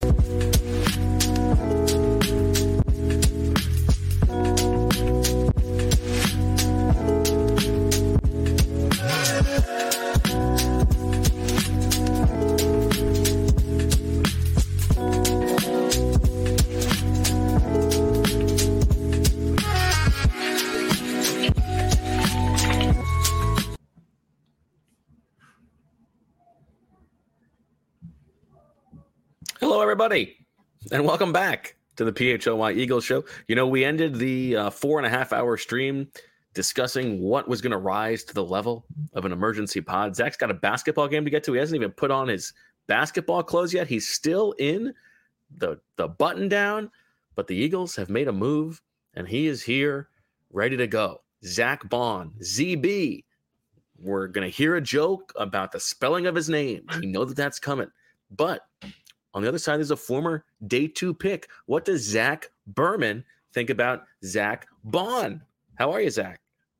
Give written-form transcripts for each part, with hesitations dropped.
Hello, everybody, and welcome back to the PHLY Eagles show. You know, we ended the 4.5-hour stream discussing what was going to rise to the level of an emergency pod. Zach's got a basketball game to get to. He hasn't even put on his basketball clothes yet. He's still in the button down, but the Eagles have made a move, and he is here, ready to go. Zack Baun, ZB. We're going to hear a joke about the spelling of his name. We know that that's coming, but on the other side, there's a former day 2 pick. What does Zach Berman think about Zack Baun? How are you, Zach?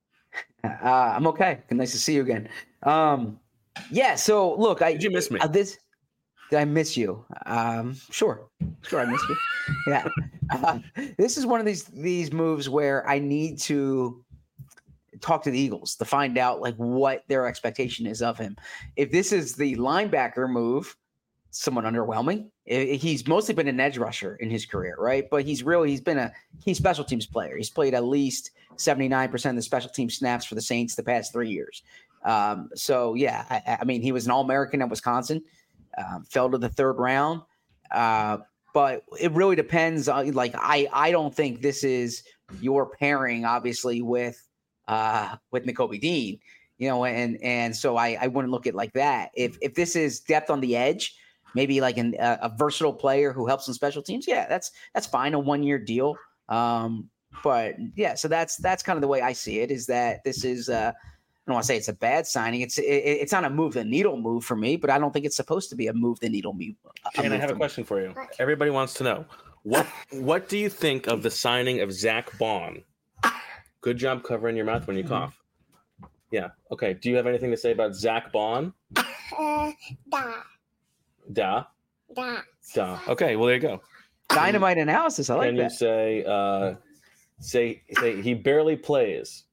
I'm okay. Nice to see you again. Yeah. So look, did you miss me? Did I miss you? Sure, I missed you. Yeah. This is one of these moves where I need to talk to the Eagles to find out like what their expectation is of him. If this is the linebacker move, somewhat underwhelming. He's mostly been an edge rusher in his career, right? But he's been a key special teams player. He's played at least 79% of the special team snaps for the Saints the past 3 years. So yeah, I mean, he was an All-American at Wisconsin, fell to the 3rd round. But it really depends on, like, I don't think this is your pairing, obviously, with Nakobe Dean, you know, and so I wouldn't look at it like that. If this is depth on the edge, maybe like a versatile player who helps in special teams. Yeah, that's fine. A 1-year deal. But yeah, so that's kind of the way I see it, is that this is, I don't want to say it's a bad signing. It's not a move the needle move for me, but I don't think it's supposed to be a move the needle move. And I have a question for you. Everybody wants to know, what do you think of the signing of Zack Baun? Good job covering your mouth when you cough. Yeah. Okay. Do you have anything to say about Zack Baun? Da. Okay, well, there you go. Dynamite analysis. I like that. Can you say he barely plays?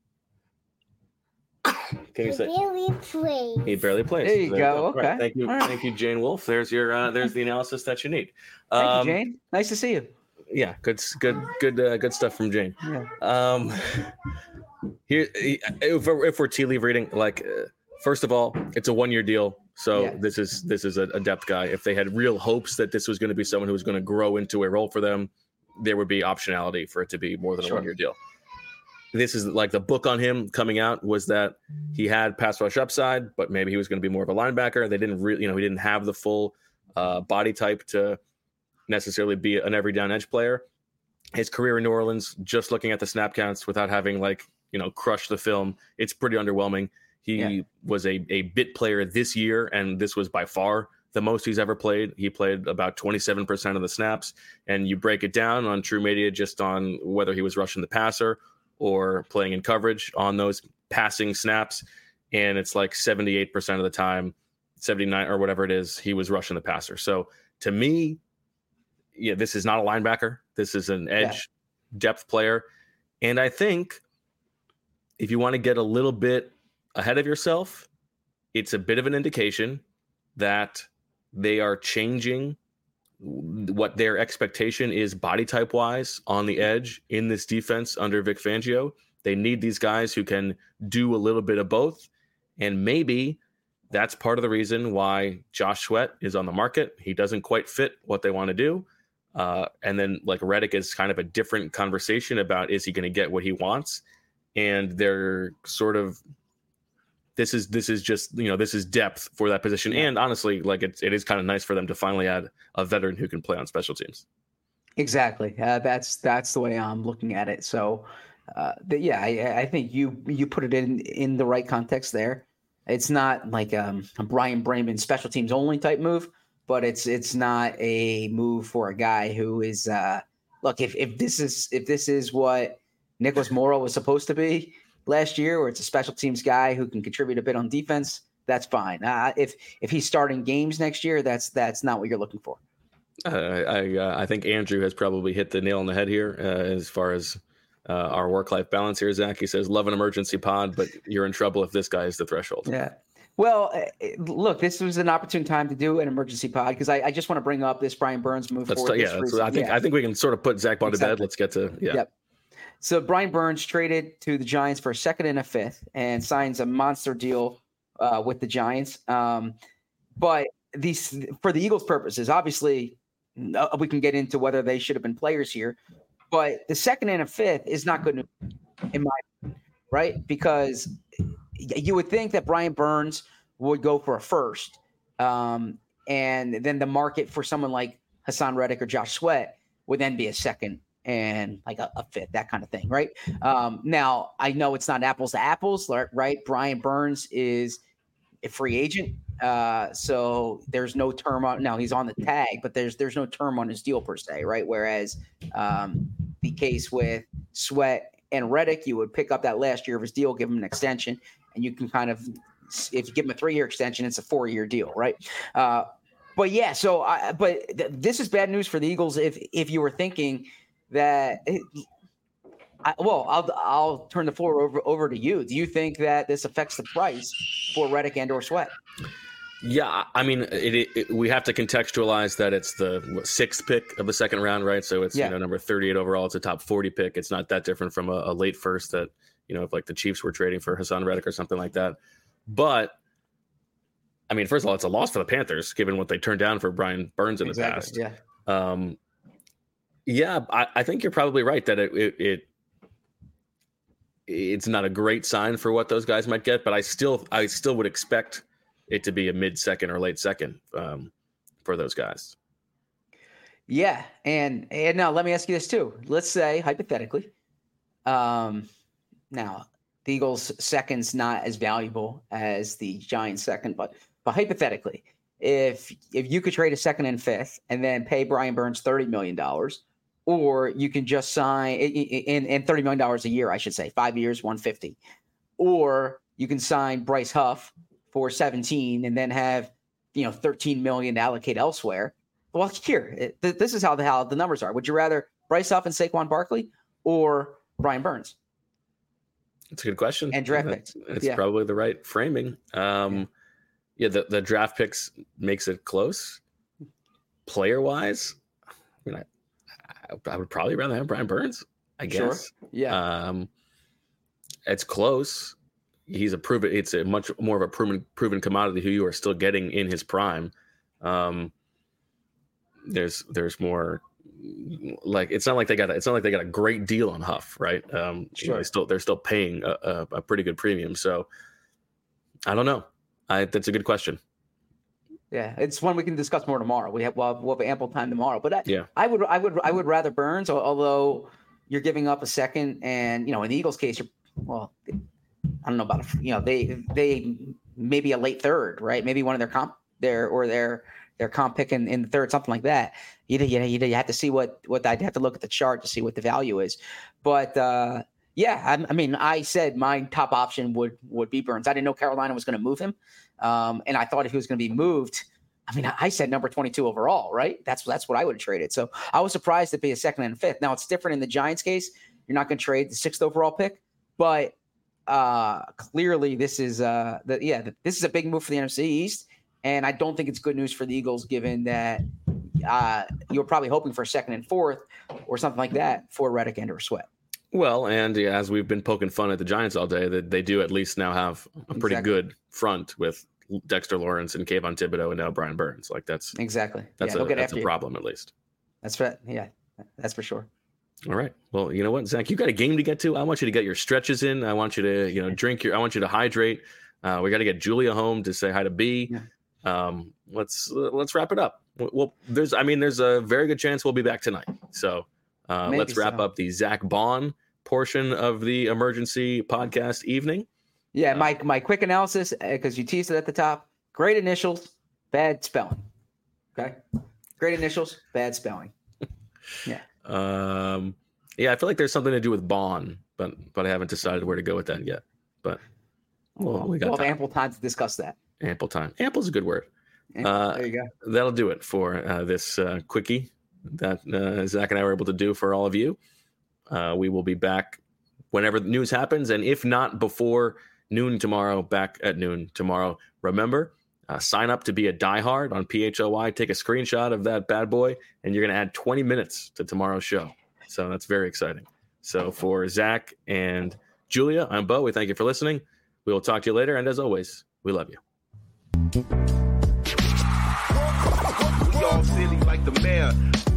Can you say he barely plays? There you go. Okay. Right. Thank you. Right. Thank you, Jane Wolf. There's the analysis that you need. Thank you, Jane. Nice to see you. Yeah, good stuff from Jane. Yeah. Here, if we're tea leaf reading, like, first of all, it's a 1-year deal. So yeah. This is a depth guy. If they had real hopes that this was going to be someone who was going to grow into a role for them, there would be optionality for it to be more than a 1-year deal. This is like the book on him coming out was that he had pass rush upside, but maybe he was going to be more of a linebacker. They didn't really, he didn't have the full body type to necessarily be an every down edge player. His career in New Orleans, just looking at the snap counts without having crushed the film, it's pretty underwhelming. He was a bit player this year, and this was by far the most he's ever played. He played about 27% of the snaps, and you break it down on True Media just on whether he was rushing the passer or playing in coverage on those passing snaps, and it's like 78% of the time, 79 or whatever it is, he was rushing the passer. So to me, yeah, this is not a linebacker. This is an edge depth player, and I think if you want to get a little bit ahead of yourself, it's a bit of an indication that they are changing what their expectation is body type wise on the edge in this defense under Vic Fangio. They need these guys who can do a little bit of both. And maybe that's part of the reason why Josh Sweat is on the market. He doesn't quite fit what they want to do. And then like Reddick is kind of a different conversation about, is he going to get what he wants? And they're sort of, this is just, this is depth for that position. And honestly, like it is kind of nice for them to finally add a veteran who can play on special teams. Exactly. That's the way I'm looking at it. So I think you put it in the right context there. It's not like a Brian Bremen special teams only type move, but it's not a move for a guy who is look, if this is what Nicholas Morrow was supposed to be last year, or it's a special teams guy who can contribute a bit on defense, that's fine. If he's starting games next year, that's not what you're looking for. I think Andrew has probably hit the nail on the head here as far as our work-life balance here. Zach, he says, love an emergency pod, but you're in trouble if this guy is the threshold. Yeah. Well, look, this was an opportune time to do an emergency pod because I just want to bring up this Brian Burns move forward. I think we can sort of put Zach Bond to bed. Let's get to Yep. So Brian Burns traded to the Giants for a second and a fifth and signs a monster deal with the Giants. But these, for the Eagles' purposes, obviously, we can get into whether they should have been players here. But the second and a fifth is not good news, in my opinion, right? Because you would think that Brian Burns would go for a first, and then the market for someone like Hassan Reddick or Josh Sweat would then be a second and like a fifth, that kind of thing, right? Now, I know it's not apples to apples, right? Brian Burns is a free agent, so there's no term on. Now he's on the tag, but there's no term on his deal per se, right? Whereas the case with Sweat and Reddick, you would pick up that last year of his deal, give him an extension, and you can kind of, if you give him a 3-year extension, it's a 4-year deal, right? But yeah, so this is bad news for the Eagles if you were thinking that. I'll turn the floor over to you. Do you think that this affects the price for Reddick and or Sweat? Yeah, I mean, we have to contextualize that it's the 6th pick of the second round, right? So it's number 38 overall. It's a top 40 pick. It's not that different from a late first that, if like the Chiefs were trading for Hassan Reddick or something like that. But I mean, first of all, it's a loss for the Panthers, given what they turned down for Brian Burns in the past. Yeah. I think you're probably right that it's not a great sign for what those guys might get, but I still would expect it to be a mid-second or late second for those guys. Yeah. And now let me ask you this too. Let's say hypothetically, now the Eagles second's not as valuable as the Giants second, but hypothetically, if you could trade a second and fifth and then pay Brian Burns $30 million, or you can just sign in $30 million a year, I should say, 5 years, $150, or you can sign Bryce Huff for 17 and then have, $13 million to allocate elsewhere. Well, here, this is how the numbers are. Would you rather Bryce Huff and Saquon Barkley or Brian Burns? That's a good question. And draft picks. It's probably the right framing. The draft picks makes it close. Player wise, I mean, I would probably rather have Brian Burns, I guess. Sure. Yeah. It's close. It's a much more of a proven commodity who you are still getting in his prime. There's more, like, it's not like they got a great deal on Huff, right? Sure. They're still paying a pretty good premium. So I don't know. That's a good question. Yeah, it's one we can discuss more tomorrow. We'll have ample time tomorrow. But I would rather Burns, although you're giving up a second, and in the Eagles' case, I don't know about they maybe a late third, right? Maybe one of their comp pick in the third, something like that. You have to see I'd have to look at the chart to see what the value is. But I mean, I said my top option would be Burns. I didn't know Carolina was going to move him. And I thought if he was going to be moved, I mean, I said number 22 overall, right? That's what I would have traded. So I was surprised to be a second and a fifth. Now it's different in the Giants case. You're not going to trade the 6th overall pick, but clearly this is this is a big move for the NFC East. And I don't think it's good news for the Eagles, given that you're probably hoping for a 2nd and 4th or something like that for Reddick and or Sweat. Well, and as we've been poking fun at the Giants all day, that they do at least now have a pretty good front with Dexter Lawrence and Kayvon Thibodeau and now Brian Burns. Like that's a problem at least. That's right. Yeah, that's for sure. All right. Well, you know what, Zach, you got a game to get to. I want you to get your stretches in. I want you to, drink I want you to hydrate. We got to get Julia home to say hi to B. Yeah. Let's wrap it up. Well, there's a very good chance we'll be back tonight. So let's wrap up the Zach Bond portion of the emergency podcast evening. Yeah, my quick analysis, because you teased it at the top. Great initials, bad spelling. Okay, great initials, bad spelling. Yeah. I feel like there's something to do with Bond, but I haven't decided where to go with that yet. But we'll have ample time to discuss that. Ample time. Ample is a good word. There you go. That'll do it for this quickie that Zach and I were able to do for all of you. We will be back whenever the news happens, and if not before noon tomorrow, back at noon tomorrow. Remember, sign up to be a diehard on PHOI. Take a screenshot of that bad boy, and you're going to add 20 minutes to tomorrow's show. So that's very exciting. So for Zach and Julia, I'm Bo. We thank you for listening. We will talk to you later, and as always, we love you. We all silly like the mayor.